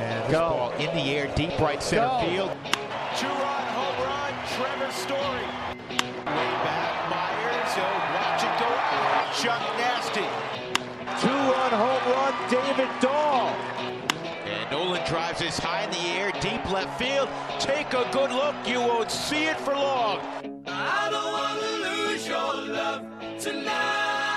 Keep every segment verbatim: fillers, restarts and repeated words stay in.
And this Go. ball in the air, deep right center Go. field. Two-run home run, Trevor Story. Way back, Myers, he'll watch it go out. Chuck Nasty. Two-run home run, David Dahl. And Nolan drives this high in the air, deep left field. Take a good look, you won't see it for long. I don't want to lose your love tonight.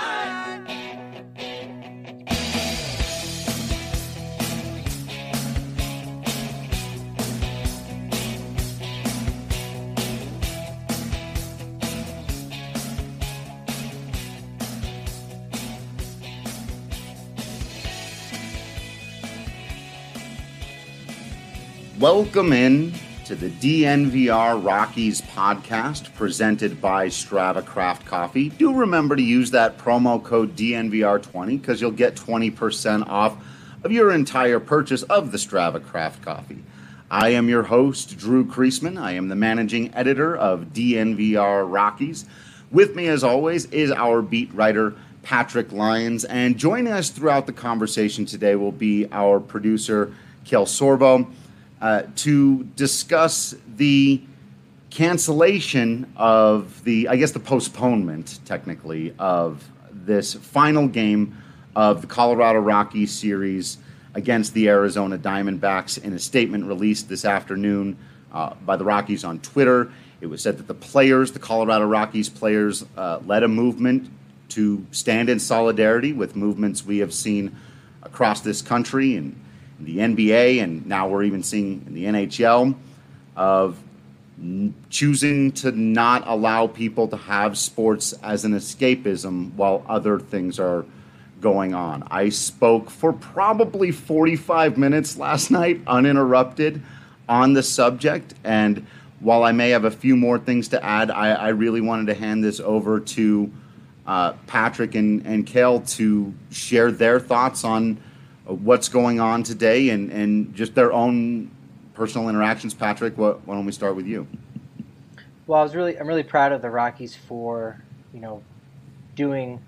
Welcome in to the D N V R Rockies podcast presented by Strava Craft Coffee. Do remember to use that promo code D N V R twenty because you'll get twenty percent off of your entire purchase of the Strava Craft Coffee. I am your host, Drew Kreisman. I am the managing editor of D N V R Rockies. With me, as always, is our beat writer, Patrick Lyons. And joining us throughout the conversation today will be our producer, Kel Sorbo. Uh, to discuss the cancellation of the, I guess the postponement, technically, of this final game of the Colorado Rockies series against the Arizona Diamondbacks. In a statement released this afternoon uh, by the Rockies on Twitter, it was said that the players, the Colorado Rockies players, uh, led a movement to stand in solidarity with movements we have seen across this country and in the N B A, and now we're even seeing in the N H L, of n- choosing to not allow people to have sports as an escapism while other things are going on. I spoke for probably forty-five minutes last night, uninterrupted, on the subject, and while I may have a few more things to add, I, I really wanted to hand this over to uh, Patrick and, and Kel to share their thoughts on what's going on today and, and just their own personal interactions. Patrick, what, why don't we start with you? Well, I was really, I'm really proud of the Rockies for, you know, doing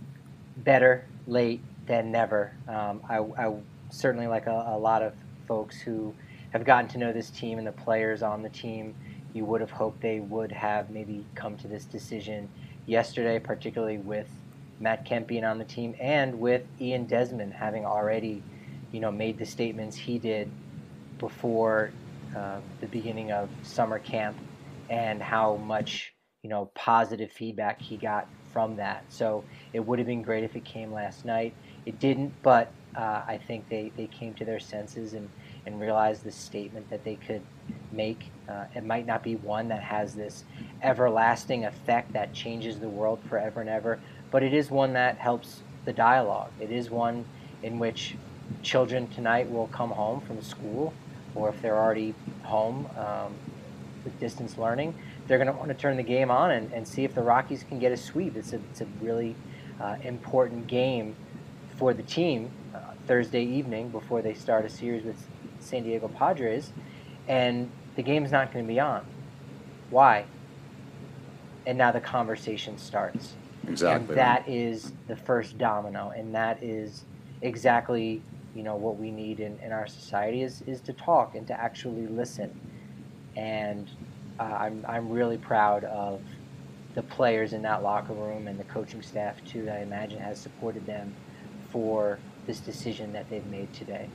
better late than never. Um, I, I certainly, like a, a lot of folks who have gotten to know this team and the players on the team, you would have hoped they would have maybe come to this decision yesterday, particularly with Matt Kemp being on the team, and with Ian Desmond having already, you know, made the statements he did before uh, the beginning of summer camp, and how much, you know, positive feedback he got from that. So it would have been great if it came last night. It didn't, but uh, I think they, they came to their senses and, and realized the statement that they could make. Uh, it might not be one that has this everlasting effect that changes the world forever and ever, but it is one that helps the dialogue. It is one in which children tonight will come home from school, or if they're already home um, with distance learning, they're going to want to turn the game on and, and see if the Rockies can get a sweep. It's a, it's a really uh, important game for the team uh, Thursday evening before they start a series with San Diego Padres, and the game's not going to be on. Why? And now the conversation starts. Exactly. And that is the first domino, and that is exactly, you know, what we need in, in our society is, is to talk and to actually listen. And uh, I'm I'm really proud of the players in that locker room and the coaching staff too, that I imagine has supported them for this decision that they've made today.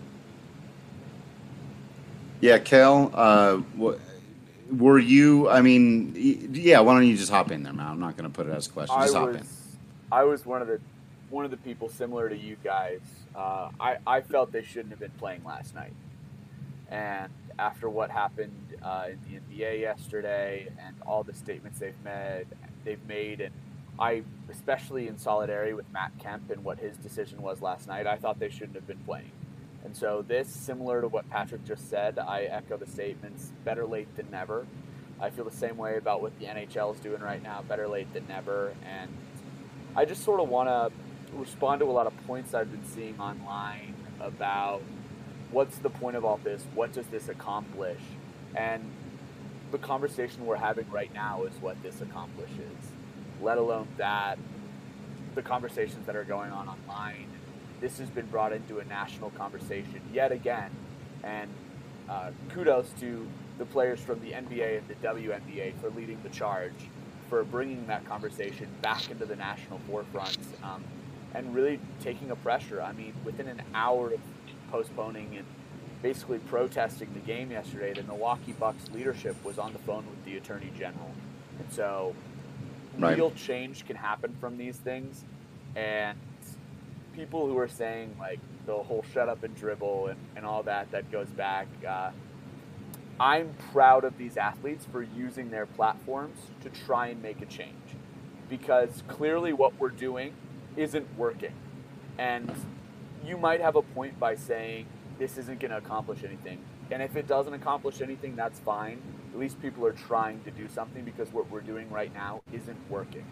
Yeah, Kel, uh, what? Were you, I mean, yeah, why don't you just hop in there, man? I'm not going to put it as a question. Just I hop was, in. I was one of the one of the people similar to you guys. Uh, I, I felt they shouldn't have been playing last night. And after what happened uh, in the N B A yesterday and all the statements they've made, they've made, and I, especially in solidarity with Matt Kemp and what his decision was last night, I thought they shouldn't have been playing. And so this, similar to what Patrick just said, I echo the statements, better late than never. I feel the same way about what the N H L is doing right now, better late than never. And I just sort of want to respond to a lot of points I've been seeing online about what's the point of all this, what does this accomplish? And the conversation we're having right now is what this accomplishes, let alone that, the conversations that are going on online. This has been brought into a national conversation yet again And uh, kudos to the players from the N B A and the W N B A for leading the charge, for bringing that conversation back into the national forefront, um, and really taking a pressure. I mean, within an hour of postponing and basically protesting the game yesterday, the Milwaukee Bucks leadership was on the phone with the Attorney General. And so right. real change can happen from these things. And people who are saying, like, the whole shut up and dribble and, and all that, that goes back. Uh, I'm proud of these athletes for using their platforms to try and make a change, because clearly what we're doing isn't working. And you might have a point by saying this isn't going to accomplish anything. And if it doesn't accomplish anything, that's fine. At least people are trying to do something, because what we're doing right now isn't working.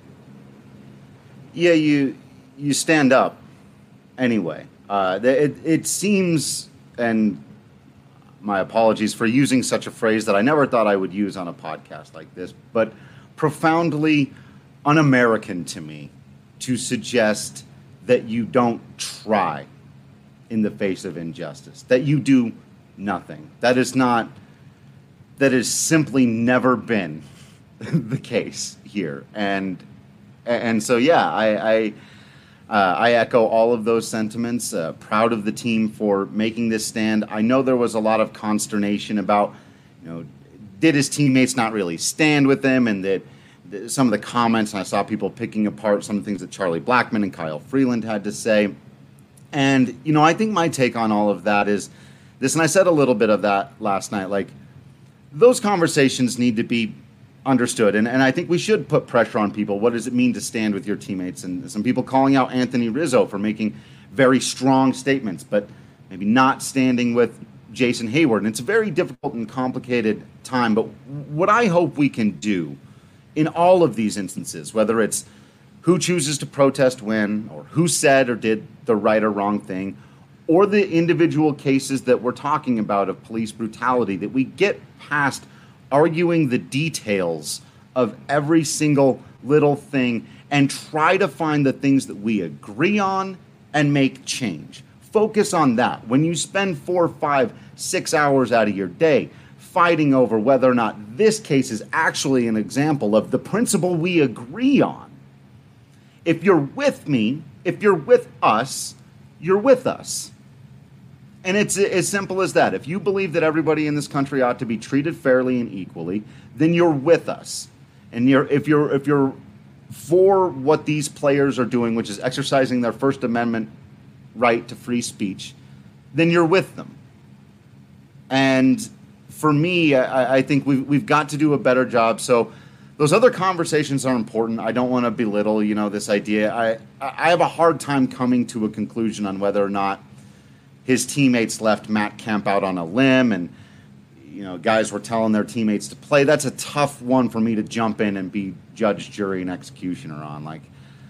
Yeah, you you stand up anyway. Uh, it, it seems, and my apologies for using such a phrase that I never thought I would use on a podcast like this, but profoundly un-American to me to suggest that you don't try in the face of injustice, that you do nothing. That is not, that has simply never been the case here. And and so, yeah, I I, uh, I echo all of those sentiments. Uh, proud of the team for making this stand. I know there was a lot of consternation about, you know, did his teammates not really stand with him, and that th- some of the comments, and I saw people picking apart some of the things that Charlie Blackmon and Kyle Freeland had to say. And, you know, I think my take on all of that is this, and I said a little bit of that last night, like, those conversations need to be understood. And, and I think we should put pressure on people. What does it mean to stand with your teammates? And some people calling out Anthony Rizzo for making very strong statements, but maybe not standing with Jason Hayward. And it's a very difficult and complicated time. But what I hope we can do in all of these instances, whether it's who chooses to protest when, or who said or did the right or wrong thing, or the individual cases that we're talking about of police brutality, that we get past arguing the details of every single little thing and try to find the things that we agree on and make change. Focus on that. When you spend four, five, six hours out of your day fighting over whether or not this case is actually an example of the principle we agree on, if you're with me, if you're with us, you're with us. And it's as simple as that. If you believe that everybody in this country ought to be treated fairly and equally, then you're with us. And you're, if you're if you're for what these players are doing, which is exercising their First Amendment right to free speech, then you're with them. And for me, I, I think we've we've got to do a better job. So those other conversations are important. I don't want to belittle, you know, this idea. I I have a hard time coming to a conclusion on whether or not his teammates left Matt Kemp out on a limb, and, you know, guys were telling their teammates to play. That's a tough one for me to jump in and be judge, jury, and executioner on. Like,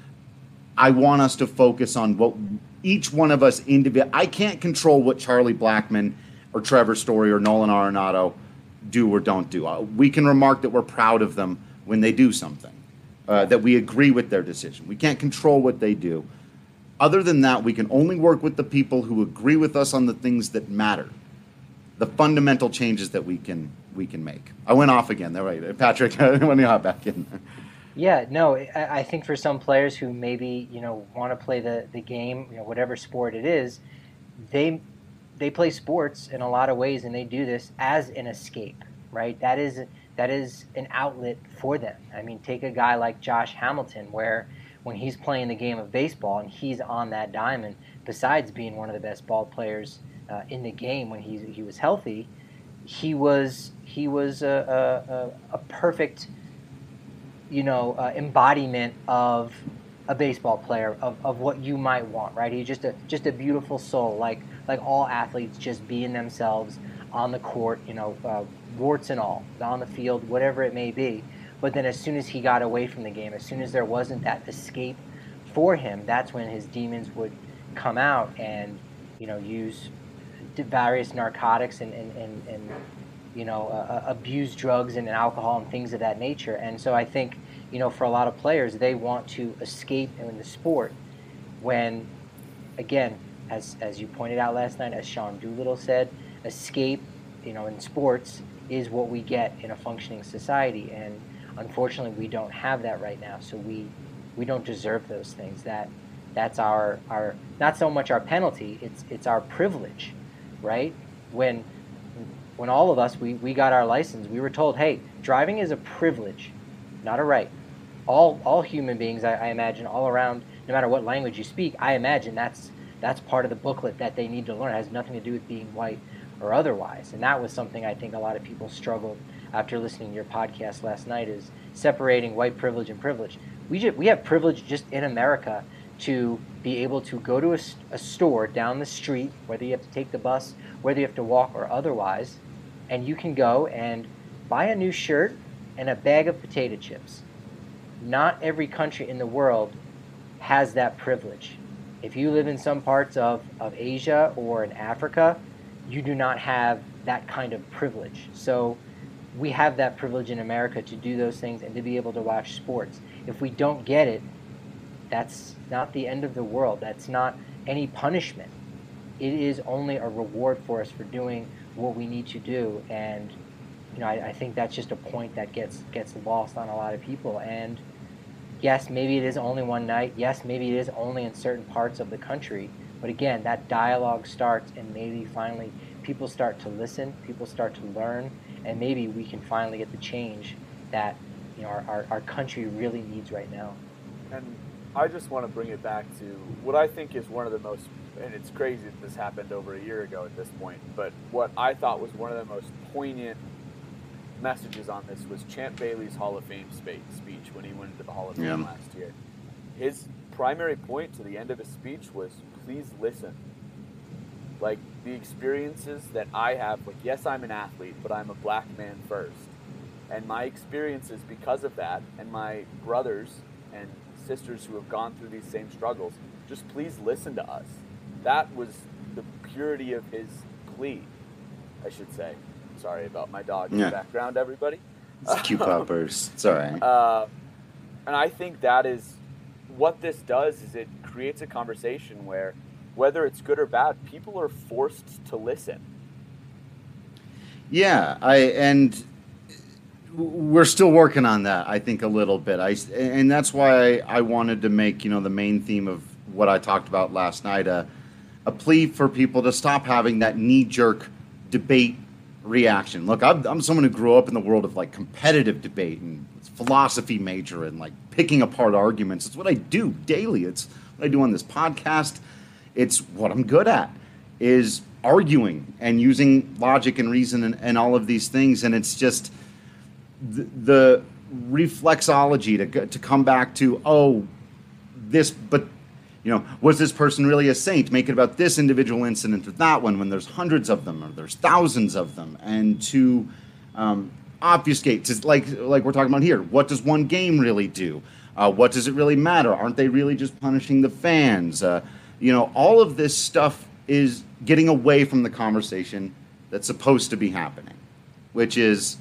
I want us to focus on what each one of us individually. I can't control what Charlie Blackmon or Trevor Story or Nolan Arenado do or don't do. Uh, we can remark that we're proud of them when they do something, uh, that we agree with their decision. We can't control what they do. Other than that, we can only work with the people who agree with us on the things that matter, the fundamental changes that we can we can make. I went off again. There, right, Patrick. When you hop back in. Yeah, no, I, I think for some players who maybe, you know, want to play the, the game, you know, whatever sport it is, they they play sports in a lot of ways, and they do this as an escape, right? That is that is an outlet for them. I mean, take a guy like Josh Hamilton, where when he's playing the game of baseball and he's on that diamond, besides being one of the best ball players uh, in the game when he he was healthy, he was he was a a, a perfect, you know, uh, embodiment of a baseball player, of, of what you might want, right? He's just a just a beautiful soul, like like all athletes, just being themselves on the court, you know, uh, warts and all, on the field, whatever it may be. But then as soon as he got away from the game, as soon as there wasn't that escape for him, that's when his demons would come out and, you know, use various narcotics and, and, and, and you know, uh, abuse drugs and alcohol and things of that nature. And so I think, you know, for a lot of players, they want to escape in the sport when, again, as as you pointed out last night, as Sean Doolittle said, escape, you know, in sports is what we get in a functioning society, and unfortunately, we don't have that right now. So we we don't deserve those things. That that's our our not so much our penalty. It's it's our privilege, right? When when all of us we, we got our license, we were told, hey, driving is a privilege, not a right. All all human beings, I, I imagine, all around, no matter what language you speak, I imagine that's that's part of the booklet that they need to learn. It has nothing to do with being white or otherwise. And that was something I think a lot of people struggled after listening to your podcast last night, is separating white privilege and privilege. We just, we have privilege just in America to be able to go to a, a store down the street, whether you have to take the bus, whether you have to walk or otherwise, and you can go and buy a new shirt and a bag of potato chips. Not every country in the world has that privilege. If you live in some parts of, of Asia or in Africa, you do not have that kind of privilege. So we have that privilege in America to do those things and to be able to watch sports. If we don't get it, that's not the end of the world. That's not any punishment. It is only a reward for us for doing what we need to do. And you know, I, I think that's just a point that gets gets lost on a lot of people. And yes, maybe it is only one night. Yes, maybe it is only in certain parts of the country. But again, that dialogue starts, and maybe finally people start to listen, people start to learn, and maybe we can finally get the change that you know our, our, our country really needs right now. And I just want to bring it back to what I think is one of the most, and it's crazy that this happened over a year ago at this point, but what I thought was one of the most poignant messages on this was Champ Bailey's Hall of Fame speech when he went into the Hall of Fame yeah. last year. His primary point to the end of his speech was, please listen. Like, the experiences that I have, like, yes, I'm an athlete, but I'm a black man first. And my experiences because of that, and my brothers and sisters who have gone through these same struggles, just please listen to us. That was the purity of his plea, I should say. Sorry about my dog in yeah. the background, everybody. It's cute puppers. It's all right. Uh, and I think that is what this does, is it creates a conversation where, whether it's good or bad, people are forced to listen. Yeah, I and we're still working on that, I think, a little bit. I and that's why I, I wanted to make, you know, the main theme of what I talked about last night, a, a plea for people to stop having that knee-jerk debate reaction. Look, I'm, I'm someone who grew up in the world of like competitive debate and philosophy major and like picking apart arguments. It's what I do daily. It's what I do on this podcast. It's what I'm good at, is arguing and using logic and reason and, and all of these things. And it's just the, the reflexology to to come back to, oh, this, but you know, was this person really a saint? Make it about this individual incident or that one, when there's hundreds of them or there's thousands of them, and to um, obfuscate, to, like like we're talking about here. What does one game really do? Uh, what does it really matter? Aren't they really just punishing the fans? Uh, you know, all of this stuff is getting away from the conversation that's supposed to be happening, which is,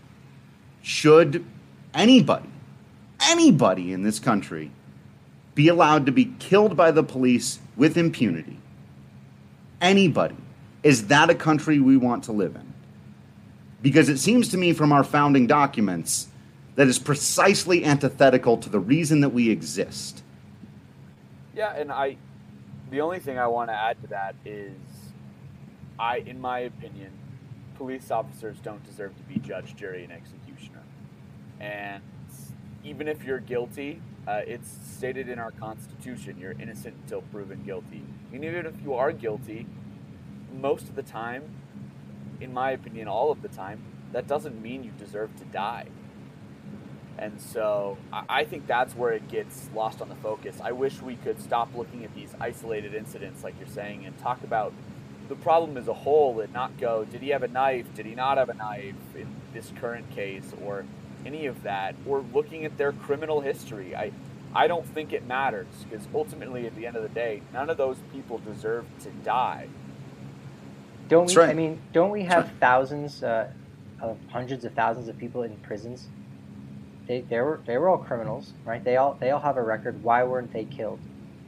should anybody, anybody in this country be allowed to be killed by the police with impunity? Anybody. Is that a country we want to live in? Because it seems to me from our founding documents that is precisely antithetical to the reason that we exist. Yeah, and I, the only thing I want to add to that is, I, in my opinion, police officers don't deserve to be judge, jury, and executioner. And even if you're guilty, Uh, it's stated in our Constitution, you're innocent until proven guilty. And even if you are guilty, most of the time, in my opinion, all of the time, that doesn't mean you deserve to die. And so I, I think that's where it gets lost on the focus. I wish we could stop looking at these isolated incidents, like you're saying, and talk about the problem as a whole and not go, did he have a knife? Did he not have a knife in this current case? Or any of that, or looking at their criminal history. I I don't think it matters, because ultimately at the end of the day, none of those people deserve to die. Don't That's we? right. I mean, don't we have right. thousands uh, of hundreds of thousands of people in prisons? They they were they were all criminals, right? They all they all have a record. Why weren't they killed?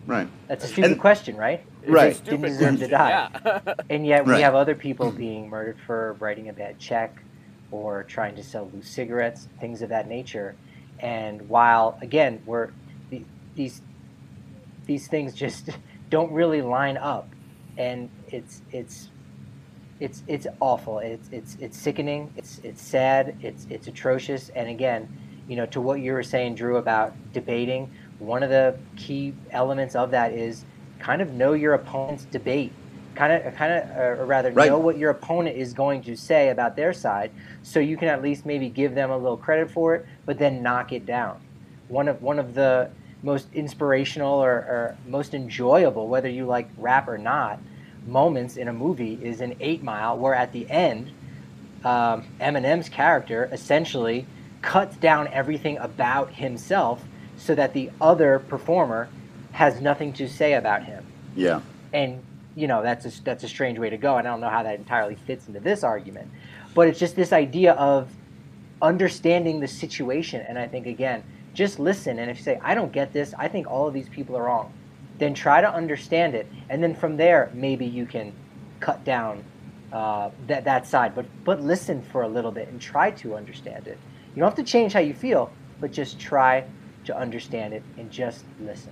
Right. That's a stupid And- question, right? Right. They didn't deserve to die. Yeah. And yet we Right. have other people being murdered for writing a bad check or trying to sell loose cigarettes, things of that nature. And while, again, we're the- these these things just don't really line up, and it's it's it's it's awful. It's it's it's sickening. It's it's sad. It's it's atrocious. And again, you know, to what you were saying, Drew, about debating, one of the key elements of that is kind of know your opponent's debate. Kind of, kind of, or rather, Right. know what your opponent is going to say about their side, so you can at least maybe give them a little credit for it, but then knock it down. One of one of the most inspirational or, or most enjoyable, whether you like rap or not, moments in a movie is in Eight Mile, where at the end, um, Eminem's character essentially cuts down everything about himself so that the other performer has nothing to say about him. Yeah. And you know, that's a, that's a strange way to go, and I don't know how that entirely fits into this argument. But it's just this idea of understanding the situation, and I think, again, just listen, and if you say, I don't get this, I think all of these people are wrong, then try to understand it, and then from there, maybe you can cut down uh, that, that side. But, but listen for a little bit and try to understand it. You don't have to change how you feel, but just try to understand it and just listen.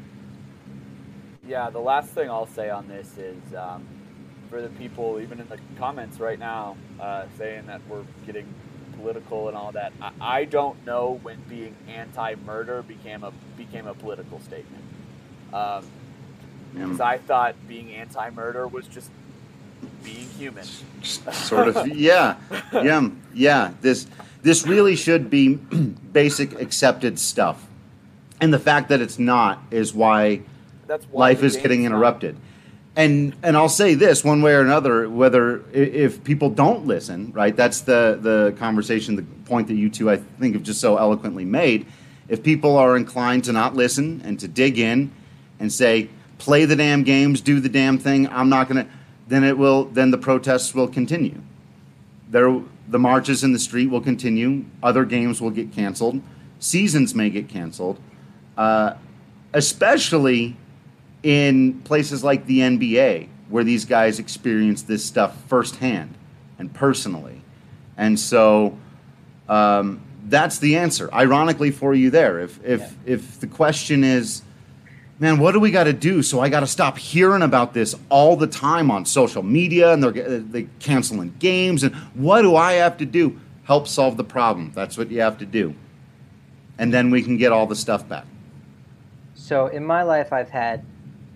Yeah, the last thing I'll say on this is um, for the people, even in the comments right now, uh, saying that we're getting political and all that. I, I don't know when being anti-murder became a became a political statement. Um, because I thought being anti-murder was just being human. Sort of. Yeah. Yeah. Yeah. This this really should be basic accepted stuff, and the fact that it's not is why. That's why life the is getting game's not- interrupted. And and I'll say this one way or another, whether i- if people don't listen, right? That's the the conversation, the point that you two I think have just so eloquently made. If people are inclined to not listen and to dig in and say, play the damn games, do the damn thing, I'm not gonna, then it will then the protests will continue. There the marches in the street will continue, other games will get canceled, seasons may get canceled, uh, especially in places like the N B A, where these guys experience this stuff firsthand and personally. And so um, that's the answer, ironically, for you there. If if Yeah. if the question is, man, what do we got to do? So I got to stop hearing about this all the time on social media, and they're, they're canceling games, and what do I have to do? Help solve the problem. That's what you have to do. And then we can get all the stuff back. So in my life, I've had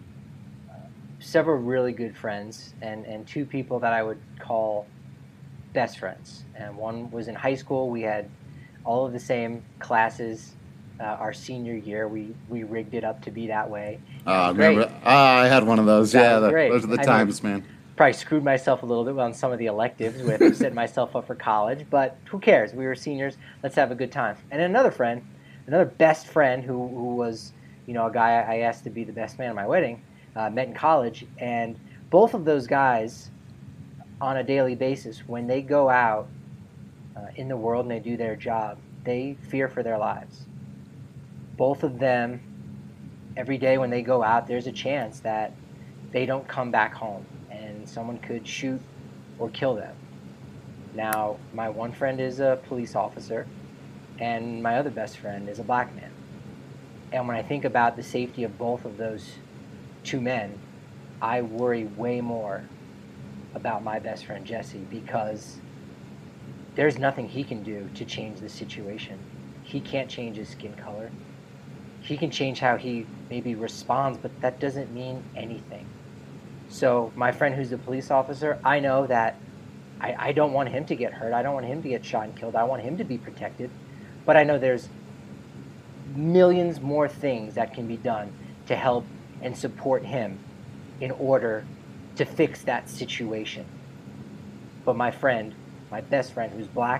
several really good friends and, and two people that I would call best friends. And one was in high school. We had all of the same classes uh, our senior year. We, we rigged it up to be that way. Uh, Great. remember? Ah, I had one of those. That yeah, was the, great. those are the I times, mean, man. Probably screwed myself a little bit on some of the electives with setting myself up for college, but who cares? We were seniors. Let's have a good time. And another friend, another best friend who, who was, you know, a guy I asked to be the best man at my wedding, uh, met in college. And both of those guys, on a daily basis, when they go out uh, in the world and they do their job, they fear for their lives. Both of them, every day when they go out, there's a chance that they don't come back home and someone could shoot or kill them. Now, my one friend is a police officer, and my other best friend is a black man. And when I think about the safety of both of those two men, I worry way more about my best friend Jesse, because there's nothing he can do to change the situation. He can't change his skin color. He can change how he maybe responds, but that doesn't mean anything. So my friend who's a police officer, I know that I, I don't want him to get hurt. I don't want him to get shot and killed. I want him to be protected. But I know there's millions more things that can be done to help and support him in order to fix that situation. But my friend, my best friend who's black,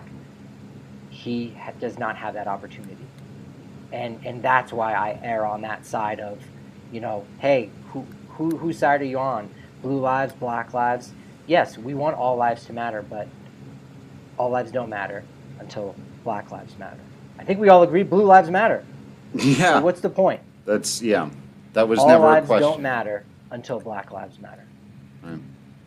he ha- does not have that opportunity. And and that's why I err on that side of, you know, hey, who who whose side are you on? Blue lives, black lives? Yes, we want all lives to matter, but all lives don't matter until black lives matter. I think we all agree blue lives matter. Yeah. So what's the point? That's, yeah. That was All never a lives question. don't matter until Black Lives Matter. Right.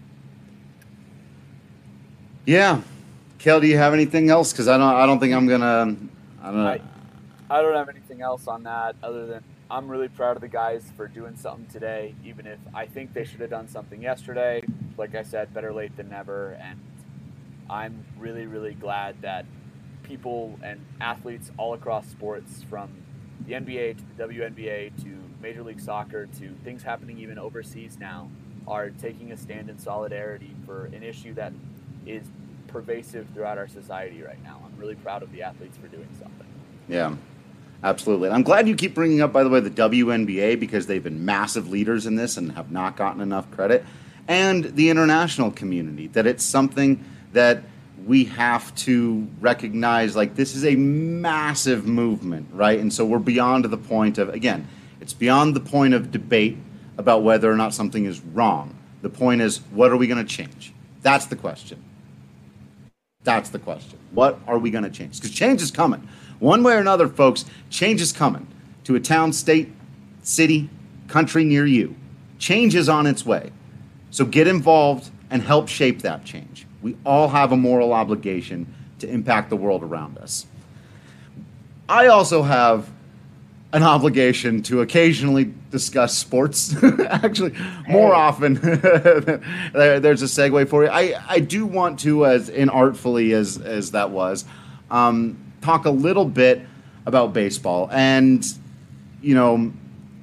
Yeah, Kel, do you have anything else? Because I don't, I don't think I'm gonna. I don't know. I, I don't have anything else on that other than I'm really proud of the guys for doing something today, even if I think they should have done something yesterday. Like I said, better late than never. And I'm really, really glad that people and athletes all across sports, from the N B A to the W N B A to Major League Soccer to things happening even overseas now, are taking a stand in solidarity for an issue that is pervasive throughout our society right now. I'm really proud of the athletes for doing something. Yeah, absolutely. And I'm glad you keep bringing up, by the way, the W N B A, because they've been massive leaders in this and have not gotten enough credit. And the international community, that it's something that we have to recognize, like, this is a massive movement, right? And so we're beyond the point of, again, it's beyond the point of debate about whether or not something is wrong. The point is, what are we going to change? That's the question. That's the question. What are we going to change? Because change is coming. One way or another, folks, change is coming to a town, state, city, country near you. Change is on its way. So get involved and help shape that change. We all have a moral obligation to impact the world around us. I also have an obligation to occasionally discuss sports. Actually, more often. There's a segue for you. I, I do want to, as inartfully as, as that was, um, talk a little bit about baseball. And, you know,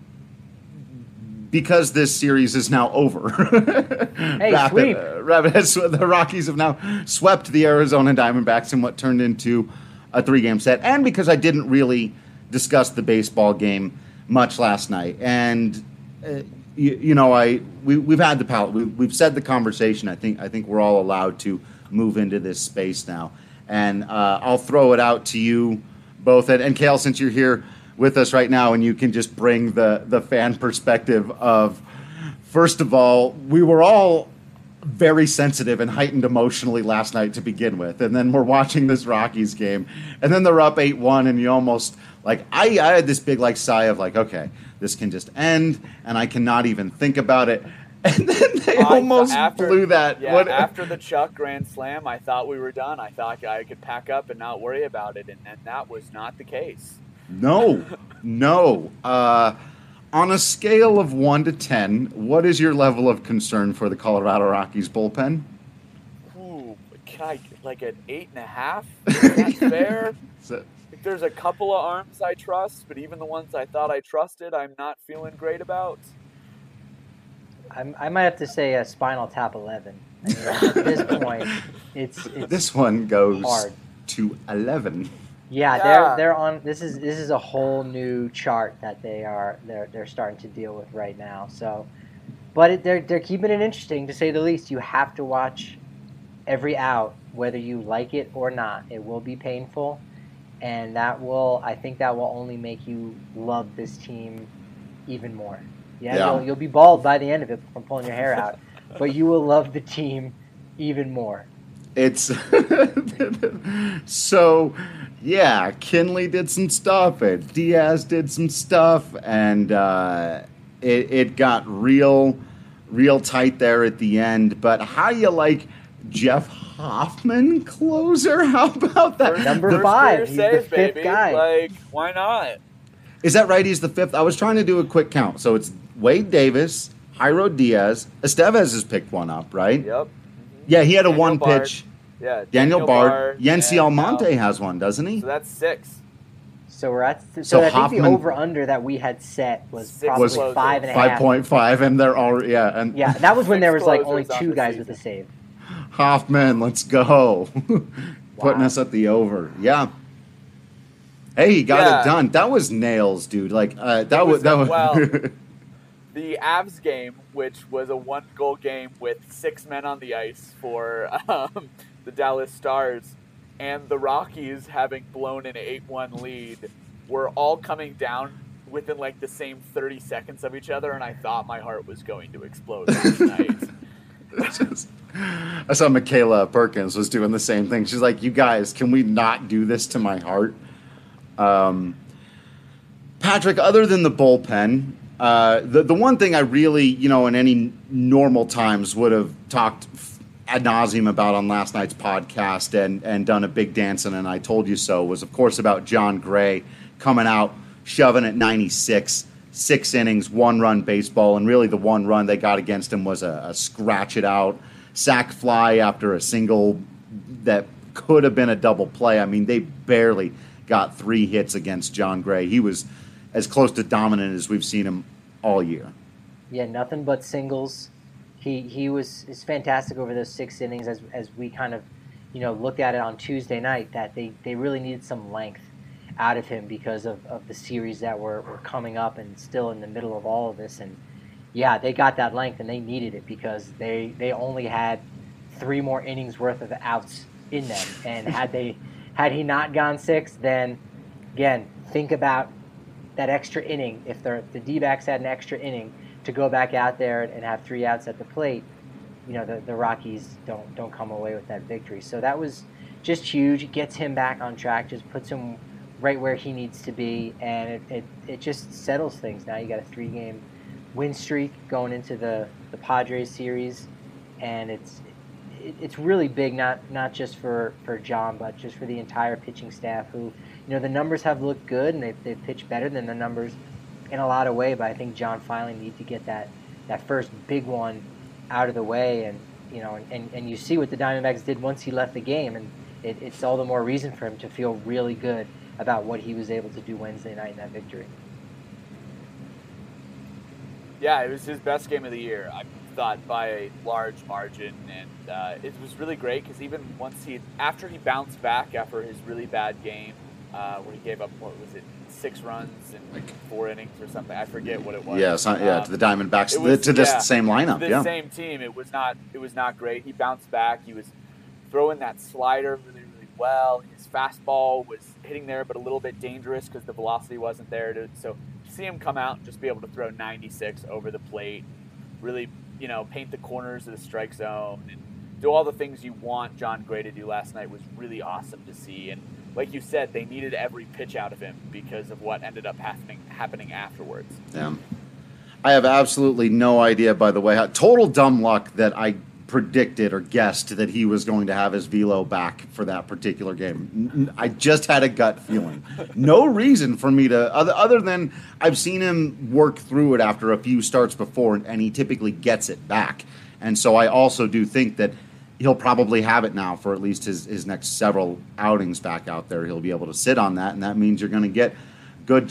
because this series is now over. Hey, Rapid, sweep. Uh, Rapid has, the Rockies have now swept the Arizona Diamondbacks in what turned into a three-game set. And because I didn't really discuss the baseball game much last night. And, uh, you, you know, I we, we've had the palette. We, we've said the conversation. I think I think we're all allowed to move into this space now. And uh, I'll throw it out to you both. And, and Kale, since you're here with us right now, and you can just bring the, the fan perspective of, first of all, we were all very sensitive and heightened emotionally last night to begin with. And then we're watching this Rockies game, and then they're up eight one, and you almost, like, I, I had this big, like, sigh of, like, okay, this can just end, and I cannot even think about it. And then they I, almost after, blew that. Yeah, what, after the Chuck grand slam, I thought we were done. I thought I could pack up and not worry about it, and, and that was not the case. No, no. Uh, on a scale of one to ten, what is your level of concern for the Colorado Rockies bullpen? Ooh, can I, like an eight and a half? Is that fair? So, Like, there's a couple of arms I trust, but even the ones I thought I trusted, I'm not feeling great about. I'm, I might have to say a Spinal Tap eleven. I mean, at this point, it's, it's this one goes hard. to eleven. Yeah, Yeah. they're they're on. This is this is a whole new chart that they are they're they're starting to deal with right now. So, but it, they're they're keeping it interesting, to say the least. You have to watch every out, whether you like it or not. It will be painful, and that will I think that will only make you love this team even more. Yeah, Yeah. You'll, you'll be bald by the end of it from pulling your hair out, but you will love the team even more. It's so, yeah, Kinley did some stuff, and Diaz did some stuff, and uh, it, it got real, real tight there at the end. But how you like Jeff Hoffman closer? How about that? Number First five, career he's save, the fifth baby. guy. Like, why not? Is that right? He's the fifth? I was trying to do a quick count. So it's Wade Davis, Jairo Diaz, Estevez has picked one up, right? Yep. Yeah, he had a Daniel one Bard. pitch. Yeah. Daniel, Bard, Bard, Yency and Almonte now- has one, doesn't he? So that's six. So we're at. So, So I think Hoffman- the over under that we had set was Six probably closers. five and a half. five point five, and they're all, yeah. And Yeah, that was when Six there was like only closers on two the guys season. with a save. Hoffman, let's go. Putting Wow. us at the over. Yeah. Hey, he got Yeah. it done. That was nails, dude. Like, uh, that It was, was that a- was, well, The Avs game, which was a one-goal game with six men on the ice for um, the Dallas Stars, and the Rockies having blown an eight one lead, were all coming down within like the same thirty seconds of each other, and I thought my heart was going to explode last night. It's just- I saw Michaela Perkins was doing the same thing. She's like, you guys, can we not do this to my heart? Um, Patrick, other than the bullpen, Uh, the the one thing I really, you know, in any normal times would have talked ad nauseum about on last night's podcast and, and done a big dance and I told you so was, of course, about Jon Gray coming out, shoving at ninety-six, six innings, one-run baseball, and really the one run they got against him was a, a scratch-it-out sac fly after a single that could have been a double play. I mean, they barely got three hits against Jon Gray. He was as close to dominant as we've seen him all year. Yeah, nothing but singles. He he was is fantastic over those six innings as as we kind of, you know, looked at it on Tuesday night that they, they really needed some length out of him because of, of the series that were, were coming up and still in the middle of all of this. And yeah, they got that length and they needed it because they, they only had three more innings worth of outs in them. And had they had he not gone six, then again, think about that extra inning. If the the D-backs had an extra inning to go back out there and have three outs at the plate, you know, the, the Rockies don't don't come away with that victory. So that was just huge. It gets him back on track, just puts him right where he needs to be, and it, it, it just settles things. Now you got a three-game win streak going into the, the Padres series, and it's it, it's really big, not not just for, for John, but just for the entire pitching staff who, you know, the numbers have looked good, and they've, they've pitched better than the numbers in a lot of way, but I think John finally needs to get that, that first big one out of the way, and you know, and, and you see what the Diamondbacks did once he left the game, and it, it's all the more reason for him to feel really good about what he was able to do Wednesday night in that victory. Yeah, it was his best game of the year, I thought, by a large margin, and uh, it was really great because even once he, after he bounced back after his really bad game, uh, where he gave up, what was it, six runs in like four innings or something, I forget what it was. Yeah, so, yeah, um, to the Diamondbacks, was, to this yeah, same lineup, to this yeah. same team, it was not, it was not great. He bounced back. He was throwing that slider really, really well. His fastball was hitting there, but a little bit dangerous because the velocity wasn't there. To, so to see him come out and just be able to throw ninety-six over the plate, really, you know, paint the corners of the strike zone and do all the things you want Jon Gray to do last night was really awesome to see. And like you said, they needed every pitch out of him because of what ended up happening happening afterwards. Yeah. I have absolutely no idea, by the way, how, total dumb luck that I predicted or guessed that he was going to have his velo back for that particular game. I just had a gut feeling. No reason for me to, other, other than I've seen him work through it after a few starts before, and he typically gets it back. And so I also do think that he'll probably have it now for at least his, his next several outings back out there. He'll be able to sit on that, and that means you're going to get good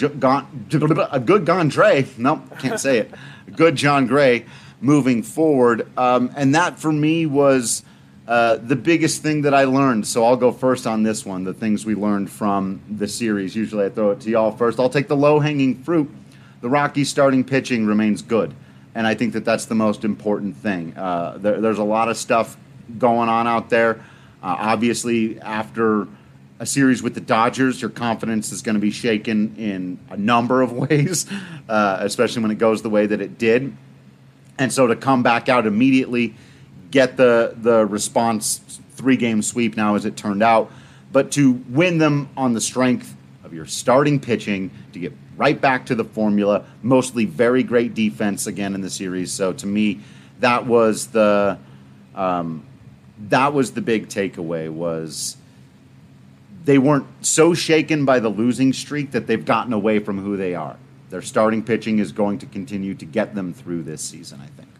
a good Jon Gray. Nope, can't say it. Good Jon Gray moving forward. Um, and that, for me, was uh, the biggest thing that I learned. So I'll go first on this one, the things we learned from the series. Usually I throw it to y'all first. I'll take the low-hanging fruit. The Rockies' starting pitching remains good, and I think that that's the most important thing. Uh, there, there's a lot of stuff going on out there. Uh, obviously, after a series with the Dodgers, your confidence is going to be shaken in a number of ways, uh, especially when it goes the way that it did. And so to come back out immediately, get the the response, three-game sweep now as it turned out, but to win them on the strength of your starting pitching, to get right back to the formula, mostly very great defense again in the series. So to me, that was the um, that was the big takeaway, was they weren't so shaken by the losing streak that they've gotten away from who they are. Their starting pitching is going to continue to get them through this season, I think.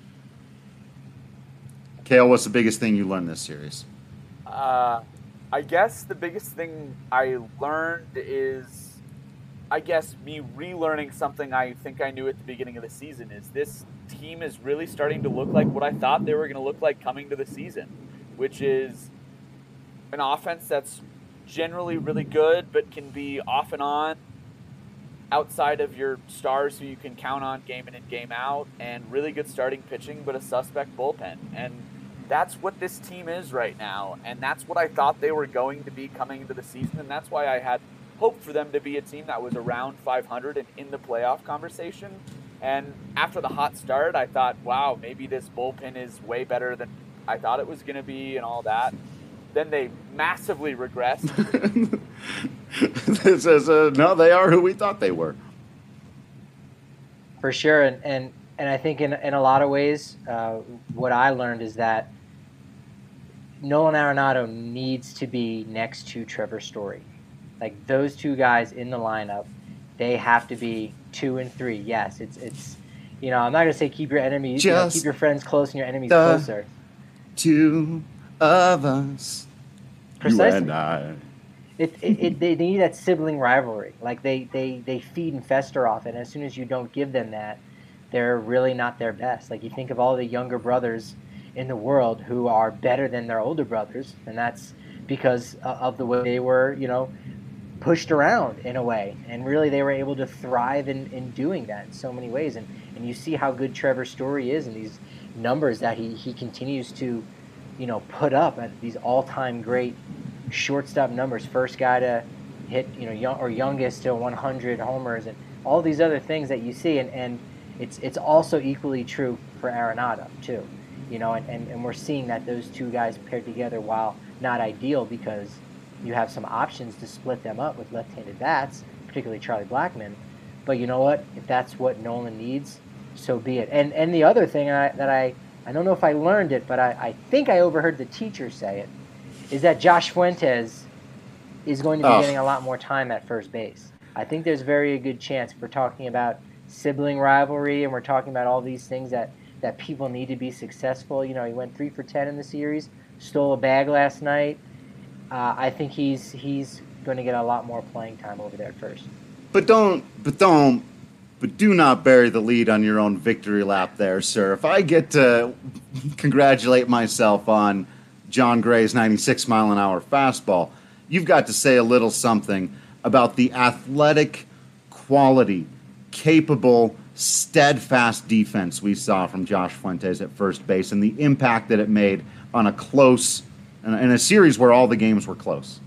Kale, what's the biggest thing you learned this series? Uh, I guess the biggest thing I learned is, I guess, me relearning something I think I knew at the beginning of the season, is this team is really starting to look like what I thought they were going to look like coming to the season, which is an offense that's generally really good but can be off and on outside of your stars who you can count on game in and game out, and really good starting pitching but a suspect bullpen. And that's what this team is right now, and that's what I thought they were going to be coming into the season, and that's why I had hoped for them to be a team that was around five hundred and in the playoff conversation. And after the hot start, I thought, wow, maybe this bullpen is way better than I thought it was going to be and all that. Then they massively regressed. This is a, no, they are who we thought they were. for sure. And, and, and I think in, in a lot of ways, uh, what I learned is that Nolan Arenado needs to be next to Trevor Story. Like those two guys in the lineup, they have to be two and three. Yes, it's it's you know, I'm not gonna say keep your enemies, you know, keep your friends close and your enemies closer. Two of us, Precisely. you and I. It, it, it they, they need that sibling rivalry. Like they, they, they feed and fester off it. And as soon as you don't give them that, they're really not their best. Like you think of all the younger brothers in the world who are better than their older brothers, and that's because of the way they were, you know, pushed around in a way. And really they were able to thrive in, in doing that in so many ways. And, and you see how good Trevor Story is and these numbers that he, he continues to, you know, put up at these all-time great shortstop numbers, first guy to hit, you know, young, or youngest to one hundred homers, and all these other things that you see, and, and it's it's also equally true for Arenado too, you know, and, and, and we're seeing that those two guys paired together, while not ideal because you have some options to split them up with left-handed bats, particularly Charlie Blackmon, but you know what, if that's what Nolan needs, so be it. And and the other thing I, that I, I don't know if I learned it, but I, I think I overheard the teacher say it, is that Josh Fuentes is going to be oh. getting a lot more time at first base. I think there's very a good chance, if we're talking about sibling rivalry and we're talking about all these things that, that people need to be successful. You know, he went three for ten in the series, stole a bag last night. Uh, I think he's he's going to get a lot more playing time over there at first. But don't, but don't, but do not bury the lead on your own victory lap there, sir. If I get to congratulate myself on John Gray's ninety-six mile an hour fastball, you've got to say a little something about the athletic quality, capable, steadfast defense we saw from Josh Fuentes at first base and the impact that it made on a close, in a series where all the games were close.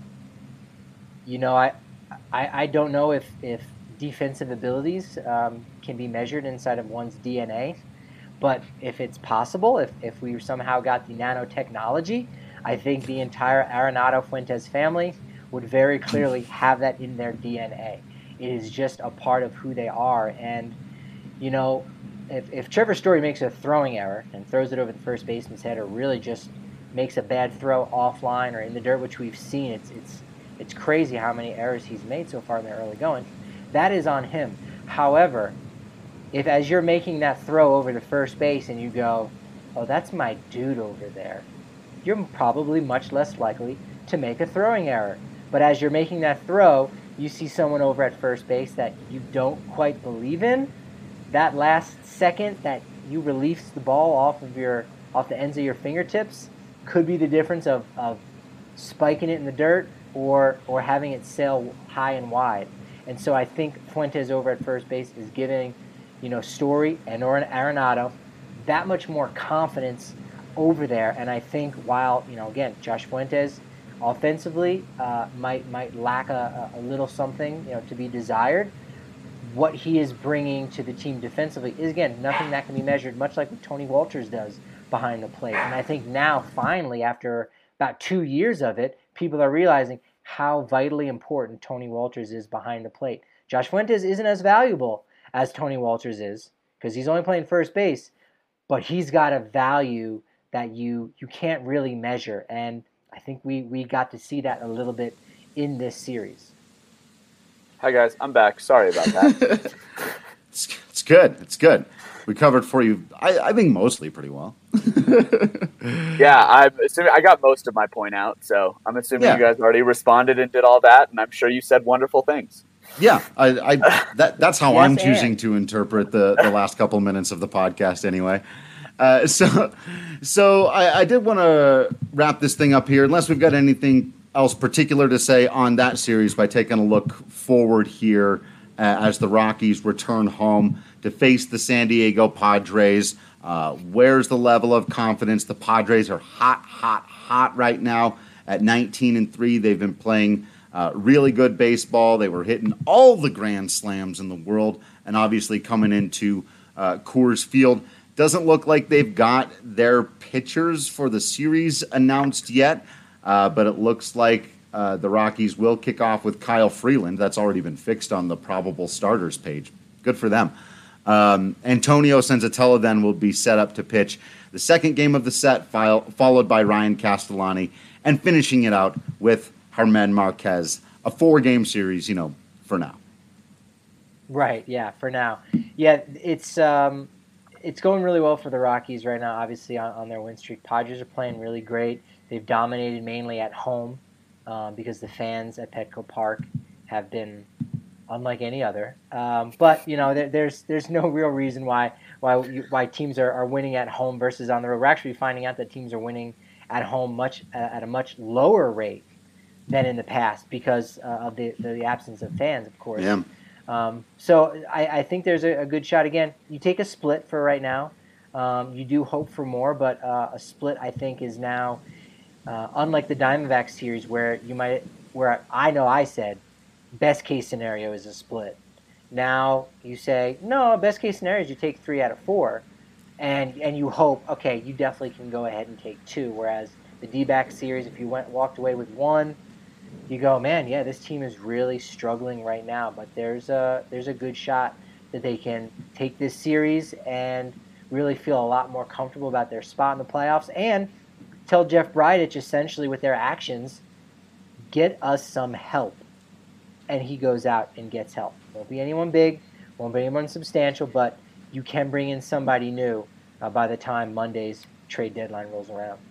You know, I I, I don't know if, if defensive abilities um, can be measured inside of one's D N A. But if it's possible, if, if we somehow got the nanotechnology, I think the entire Arenado Fuentes family would very clearly have that in their D N A. It is just a part of who they are. And, you know, if, if Trevor Story makes a throwing error and throws it over the first baseman's head, or really just makes a bad throw offline or in the dirt, which we've seen, it's it's it's crazy how many errors he's made so far in the early going, that is on him. However, if as you're making that throw over to first base and you go, oh, that's my dude over there, you're probably much less likely to make a throwing error. But as you're making that throw, you see someone over at first base that you don't quite believe in, that last second that you release the ball off of your off the ends of your fingertips could be the difference of, of spiking it in the dirt or or having it sail high and wide. And so I think Fuentes over at first base is giving, you know, Story and or an Arenado that much more confidence over there. And I think while, you know, again, Josh Fuentes offensively uh, might might lack a, a little something, you know, to be desired, what he is bringing to the team defensively is, again, nothing that can be measured, much like what Tony Walters does behind the plate. And I think now, finally, after about two years of it, people are realizing how vitally important Tony Walters is behind the plate. Josh Fuentes isn't as valuable as Tony Walters is because he's only playing first base, but he's got a value that you you can't really measure. And I think we, we got to see that a little bit in this series. Hi, guys. I'm back. Sorry about that. it's, it's good. It's good. We covered for you, I, I think, mostly pretty well. Yeah, I'm assuming I got most of my point out, so I'm assuming yeah. you guys already responded and did all that, and I'm sure you said wonderful things. Yeah, I, I that that's how yes, I'm choosing and. to interpret the, the last couple minutes of the podcast anyway. Uh, so so I, I did want to wrap this thing up here, unless we've got anything else particular to say on that series, by taking a look forward here uh, as the Rockies return home to face the San Diego Padres. Uh, where's the level of confidence? The Padres are hot, hot, hot right now at nineteen and three. They've been playing uh, really good baseball. They were hitting all the grand slams in the world, and obviously coming into uh, Coors Field. Doesn't look like they've got their pitchers for the series announced yet, uh, but it looks like uh, the Rockies will kick off with Kyle Freeland. That's already been fixed on the probable starters page. Good for them. Um, Antonio Senzatella then will be set up to pitch the second game of the set, file, followed by Ryan Castellani, and finishing it out with Germán Marquez, a four-game series, you know, for now. Right, yeah, for now. Yeah, it's um, it's going really well for the Rockies right now, obviously, on, on their win streak. Padres are playing really great. They've dominated mainly at home um, because the fans at Petco Park have been unlike any other. Um, but, you know, there, there's there's no real reason why why why teams are, are winning at home versus on the road. We're actually finding out that teams are winning at home much uh, at a much lower rate than in the past because uh, of the, the absence of fans, of course. Yeah. Um, so I, I think there's a, a good shot. Again, you take a split for right now. Um, you do hope for more, but uh, a split I think is now, uh, unlike the Diamondback series where you might, where I know I said, best case scenario is a split. Now you say, no, best case scenario is you take three out of four, and and you hope, okay, you definitely can go ahead and take two. Whereas the D-back series, if you went walked away with one, you go, man, yeah, this team is really struggling right now. But there's a there's a good shot that they can take this series and really feel a lot more comfortable about their spot in the playoffs and tell Jeff Bridich essentially with their actions, get us some help. And he goes out and gets help. Won't be anyone big, won't be anyone substantial, but you can bring in somebody new uh, by the time Monday's trade deadline rolls around.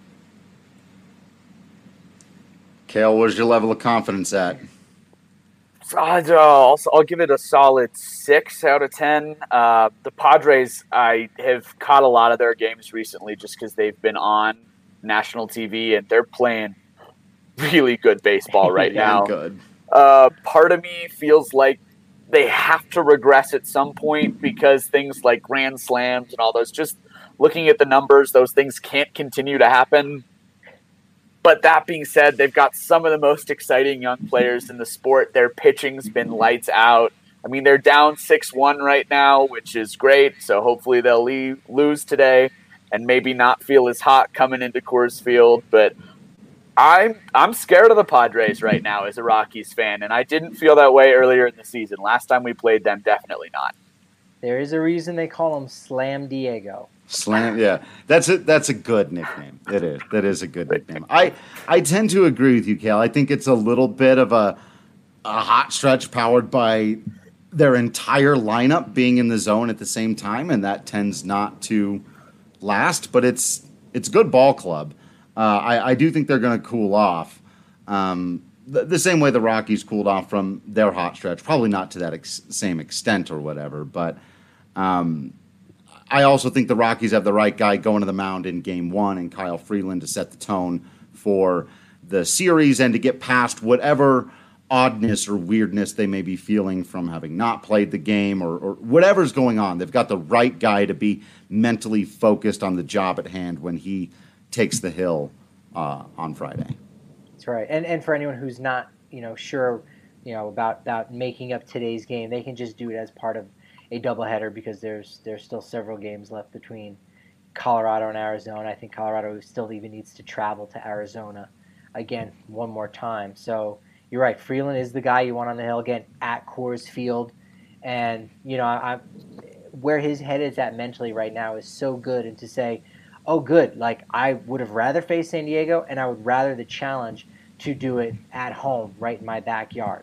Kale, where's your level of confidence at? I'll, I'll, I'll give it a solid six out of ten. Uh, the Padres, I have caught a lot of their games recently just because they've been on national T V, and they're playing really good baseball right yeah, now. Good. Uh, part of me feels like they have to regress at some point because things like grand slams and all those, just looking at the numbers, those things can't continue to happen. But that being said, they've got some of the most exciting young players in the sport. Their pitching's been lights out. I mean, they're down six one right now, which is great. So hopefully they'll leave, lose today and maybe not feel as hot coming into Coors Field. But I'm I'm scared of the Padres right now as a Rockies fan, and I didn't feel that way earlier in the season. Last time we played them, definitely not. There is a reason they call him Slam Diego. Slam, yeah, that's a that's a good nickname. It is. That is a good nickname. I I tend to agree with you, Kale. I think it's a little bit of a a hot stretch powered by their entire lineup being in the zone at the same time, and that tends not to last. But it's it's a good ball club. Uh, I, I do think they're going to cool off um, the, the same way the Rockies cooled off from their hot stretch. Probably not to that ex- same extent or whatever, but um, I also think the Rockies have the right guy going to the mound in game one and Kyle Freeland to set the tone for the series and to get past whatever oddness or weirdness they may be feeling from having not played the game or, or whatever's going on. They've got the right guy to be mentally focused on the job at hand when he takes the hill uh, on Friday. That's right. And and for anyone who's not, you know, sure, you know, about, about making up today's game, they can just do it as part of a doubleheader because there's there's still several games left between Colorado and Arizona. I think Colorado still even needs to travel to Arizona again one more time. So you're right. Freeland is the guy you want on the hill again at Coors Field. And, you know, I, I, where his head is at mentally right now is so good. And to say, oh, good. Like, I would have rather faced San Diego, and I would rather the challenge to do it at home, right in my backyard.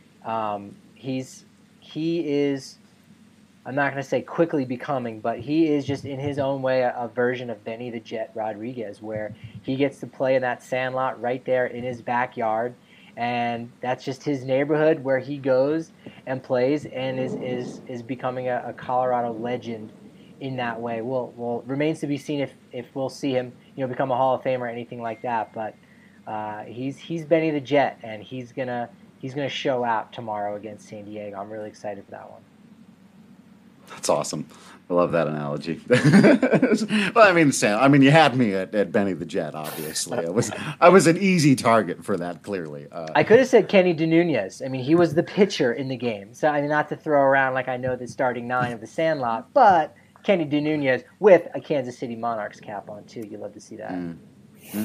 Um, he's he is, I'm not going to say quickly becoming, but he is just in his own way a, a version of Benny the Jet Rodriguez, where he gets to play in that sandlot right there in his backyard, and that's just his neighborhood where he goes and plays and is is is becoming a, a Colorado legend in that way. Well, well, remains to be seen if, if we'll see him, you know, become a Hall of Famer or anything like that. But uh, he's he's Benny the Jet, and he's gonna he's gonna show out tomorrow against San Diego. I'm really excited for that one. That's awesome. I love that analogy. Well, I mean, Sam, I mean, you had me at, at Benny the Jet. Obviously, I was I was an easy target for that. Clearly, uh, I could have said Kenny DeNunez. I mean, he was the pitcher in the game. So I mean, not to throw around like I know the starting nine of the Sandlot, but Kenny DeNunez with a Kansas City Monarchs cap on, too. You love to see that. Mm-hmm.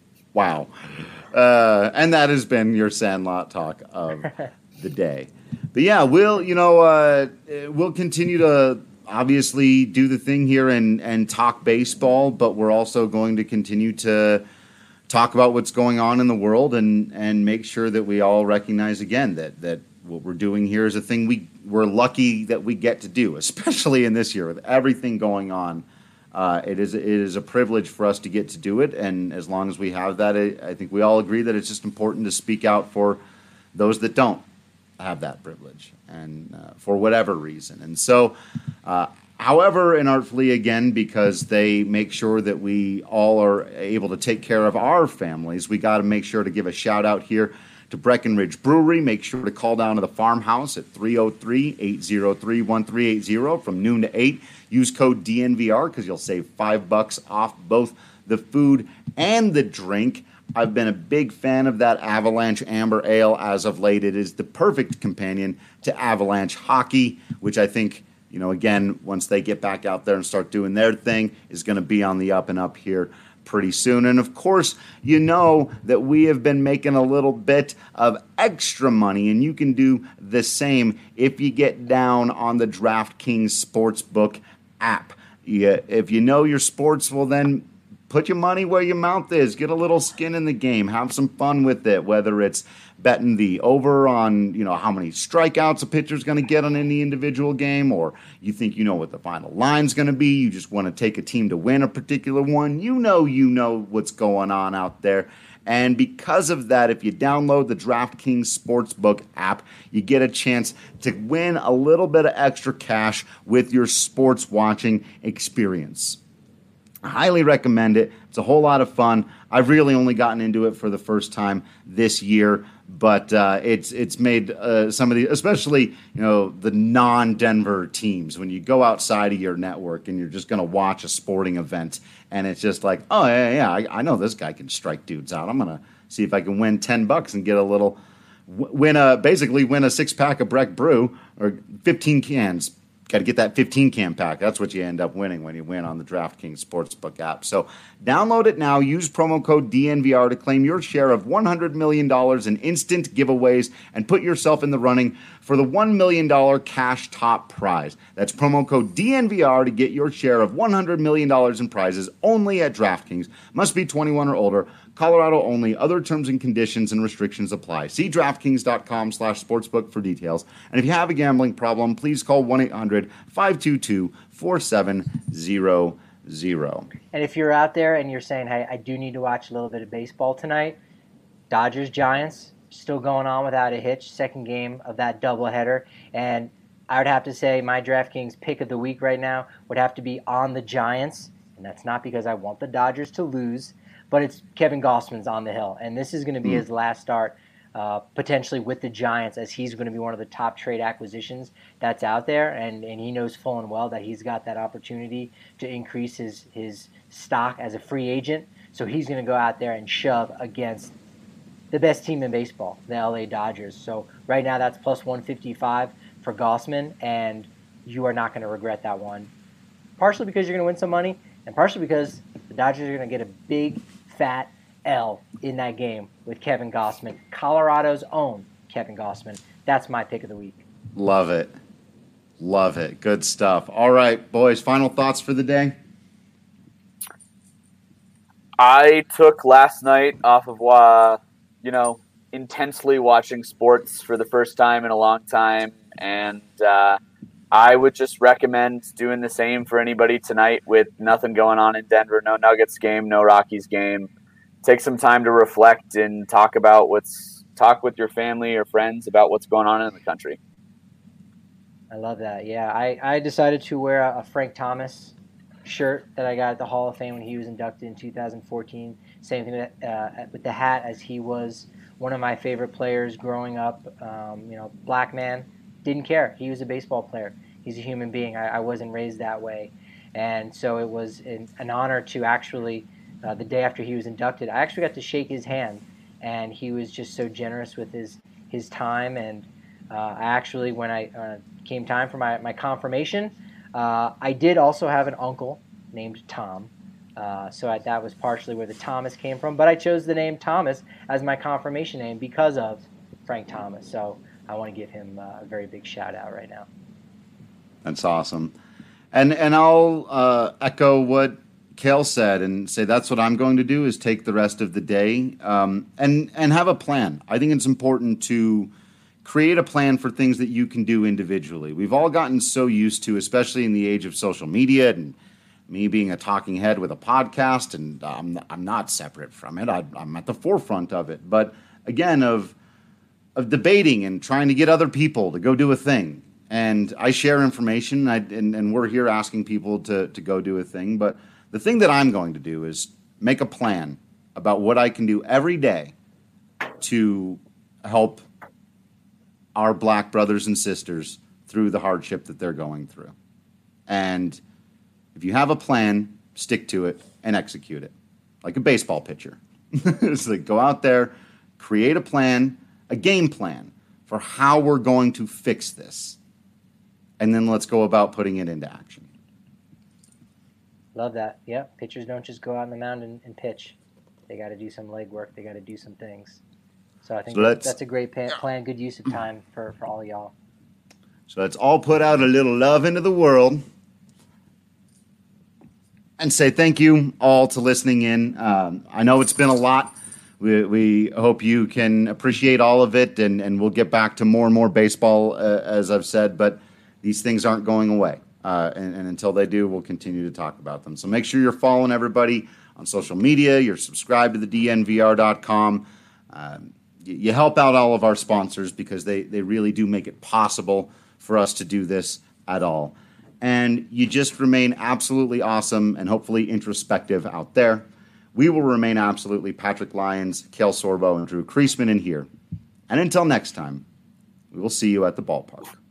Wow. Uh, and that has been your Sandlot talk of the day. But yeah, we'll you know uh, we'll continue to obviously do the thing here and and talk baseball, but we're also going to continue to talk about what's going on in the world and and make sure that we all recognize again that that what we're doing here is a thing we we're lucky that we get to do, especially in this year with everything going on. Uh, it is it is a privilege for us to get to do it, and as long as we have that, I, I think we all agree that it's just important to speak out for those that don't have that privilege, and uh, for whatever reason. And so, uh, however inartfully, again, because they make sure that we all are able to take care of our families, we got to make sure to give a shout out here to Breckenridge Brewery. Make sure to call down to the farmhouse at three oh three, eight oh three, one three eight oh from noon to eight. Use code D N V R because you'll save five bucks off both the food and the drink. I've been a big fan of that Avalanche Amber Ale as of late. It is the perfect companion to Avalanche Hockey, which I think, you know, again, once they get back out there and start doing their thing, is going to be on the up and up here pretty soon. And of course, you know that we have been making a little bit of extra money, and you can do the same if you get down on the DraftKings Sportsbook app. Yeah, if you know your sports, well then put your money where your mouth is. Get a little skin in the game. Have some fun with it, whether it's betting the over on, you know, how many strikeouts a pitcher's going to get on any individual game, or you think you know what the final line's going to be. You just want to take a team to win a particular one. You know you know what's going on out there. And because of that, if you download the DraftKings Sportsbook app, you get a chance to win a little bit of extra cash with your sports watching experience. I highly recommend it. It's a whole lot of fun. I've really only gotten into it for the first time this year, but uh, it's it's made uh, some of the, especially, you know, the non-Denver teams, when you go outside of your network and you're just going to watch a sporting event, and it's just like, oh, yeah, yeah, I, I know this guy can strike dudes out. I'm going to see if I can win ten bucks and get a little, win a, basically win a six-pack of Breck Brew, or fifteen cans. Got to get that fifteen can pack. That's what you end up winning when you win on the DraftKings Sportsbook app. So download it now. Use promo code D N V R to claim your share of one hundred million dollars in instant giveaways and put yourself in the running for the one million dollars cash top prize. That's promo code D N V R to get your share of one hundred million dollars in prizes only at DraftKings. Must be twenty-one or older. Colorado only. Other terms and conditions and restrictions apply. See DraftKings.com slash sportsbook for details. And if you have a gambling problem, please call one eight hundred, five two two, four seven zero zero. And if you're out there and you're saying, hey, I do need to watch a little bit of baseball tonight, Dodgers-Giants still going on without a hitch. Second game of that doubleheader. And I would have to say my DraftKings pick of the week right now would have to be on the Giants. And that's not because I want the Dodgers to lose, but it's Kevin Gausman's on the hill, and this is going to be mm. his last start uh, potentially with the Giants, as he's going to be one of the top trade acquisitions that's out there, and, and he knows full and well that he's got that opportunity to increase his, his stock as a free agent, so he's going to go out there and shove against the best team in baseball, the L A Dodgers. So right now that's plus one fifty-five for Gausman, and you are not going to regret that one, partially because you're going to win some money, and partially because the Dodgers are going to get a big fat L in that game with Kevin Gausman, Colorado's own Kevin Gausman. That's my pick of the week. Love it. Love it. Good stuff. All right, boys, final thoughts for the day? I took last night off of, uh, you know, intensely watching sports for the first time in a long time, and uh, I would just recommend doing the same for anybody tonight with nothing going on in Denver, no Nuggets game, no Rockies game. Take some time to reflect and talk about what's talk with your family or friends about what's going on in the country. I love that. Yeah, I, I decided to wear a Frank Thomas shirt that I got at the Hall of Fame when he was inducted in two thousand fourteen. Same thing with, uh, with the hat, as he was one of my favorite players growing up. Um, you know, black man. Didn't care. He was a baseball player. He's a human being. I, I wasn't raised that way. And so it was an, an honor to actually, uh, the day after he was inducted, I actually got to shake his hand. And he was just so generous with his, his time. And uh, I actually, when I uh, came time for my, my confirmation, uh, I did also have an uncle named Tom. Uh, so I, that was partially where the Thomas came from. But I chose the name Thomas as my confirmation name because of Frank Thomas. So I want to give him uh, a very big shout out right now. That's awesome. And and I'll uh, echo what Cale said and say that's what I'm going to do is take the rest of the day um, and, and have a plan. I think it's important to create a plan for things that you can do individually. We've all gotten so used to, especially in the age of social media and me being a talking head with a podcast, and I'm, I'm not separate from it. I, I'm at the forefront of it. But again, of of debating and trying to get other people to go do a thing. And I share information, I, and, and we're here asking people to, to go do a thing. But the thing that I'm going to do is make a plan about what I can do every day to help our black brothers and sisters through the hardship that they're going through. And if you have a plan, stick to it and execute it. Like a baseball pitcher. It's like go out there, create a plan, a game plan for how we're going to fix this. And then let's go about putting it into action. Love that. Yep. Pitchers don't just go out on the mound and, and pitch. They got to do some legwork. They got to do some things. So I think so that's, that's a great plan. Good use of time for, for all y'all. So let's all put out a little love into the world and say thank you all to listening in. Um, I know it's been a lot. We, we hope you can appreciate all of it, and, and we'll get back to more and more baseball, uh, as I've said, but these things aren't going away. Uh, and, and until they do, we'll continue to talk about them. So make sure you're following everybody on social media. You're subscribed to the D N V R dot com. Um, you, you help out all of our sponsors because they, they really do make it possible for us to do this at all. And you just remain absolutely awesome and hopefully introspective out there. We will remain absolutely Patrick Lyons, Cale Sorbo, and Drew Creasman in here. And until next time, we will see you at the ballpark.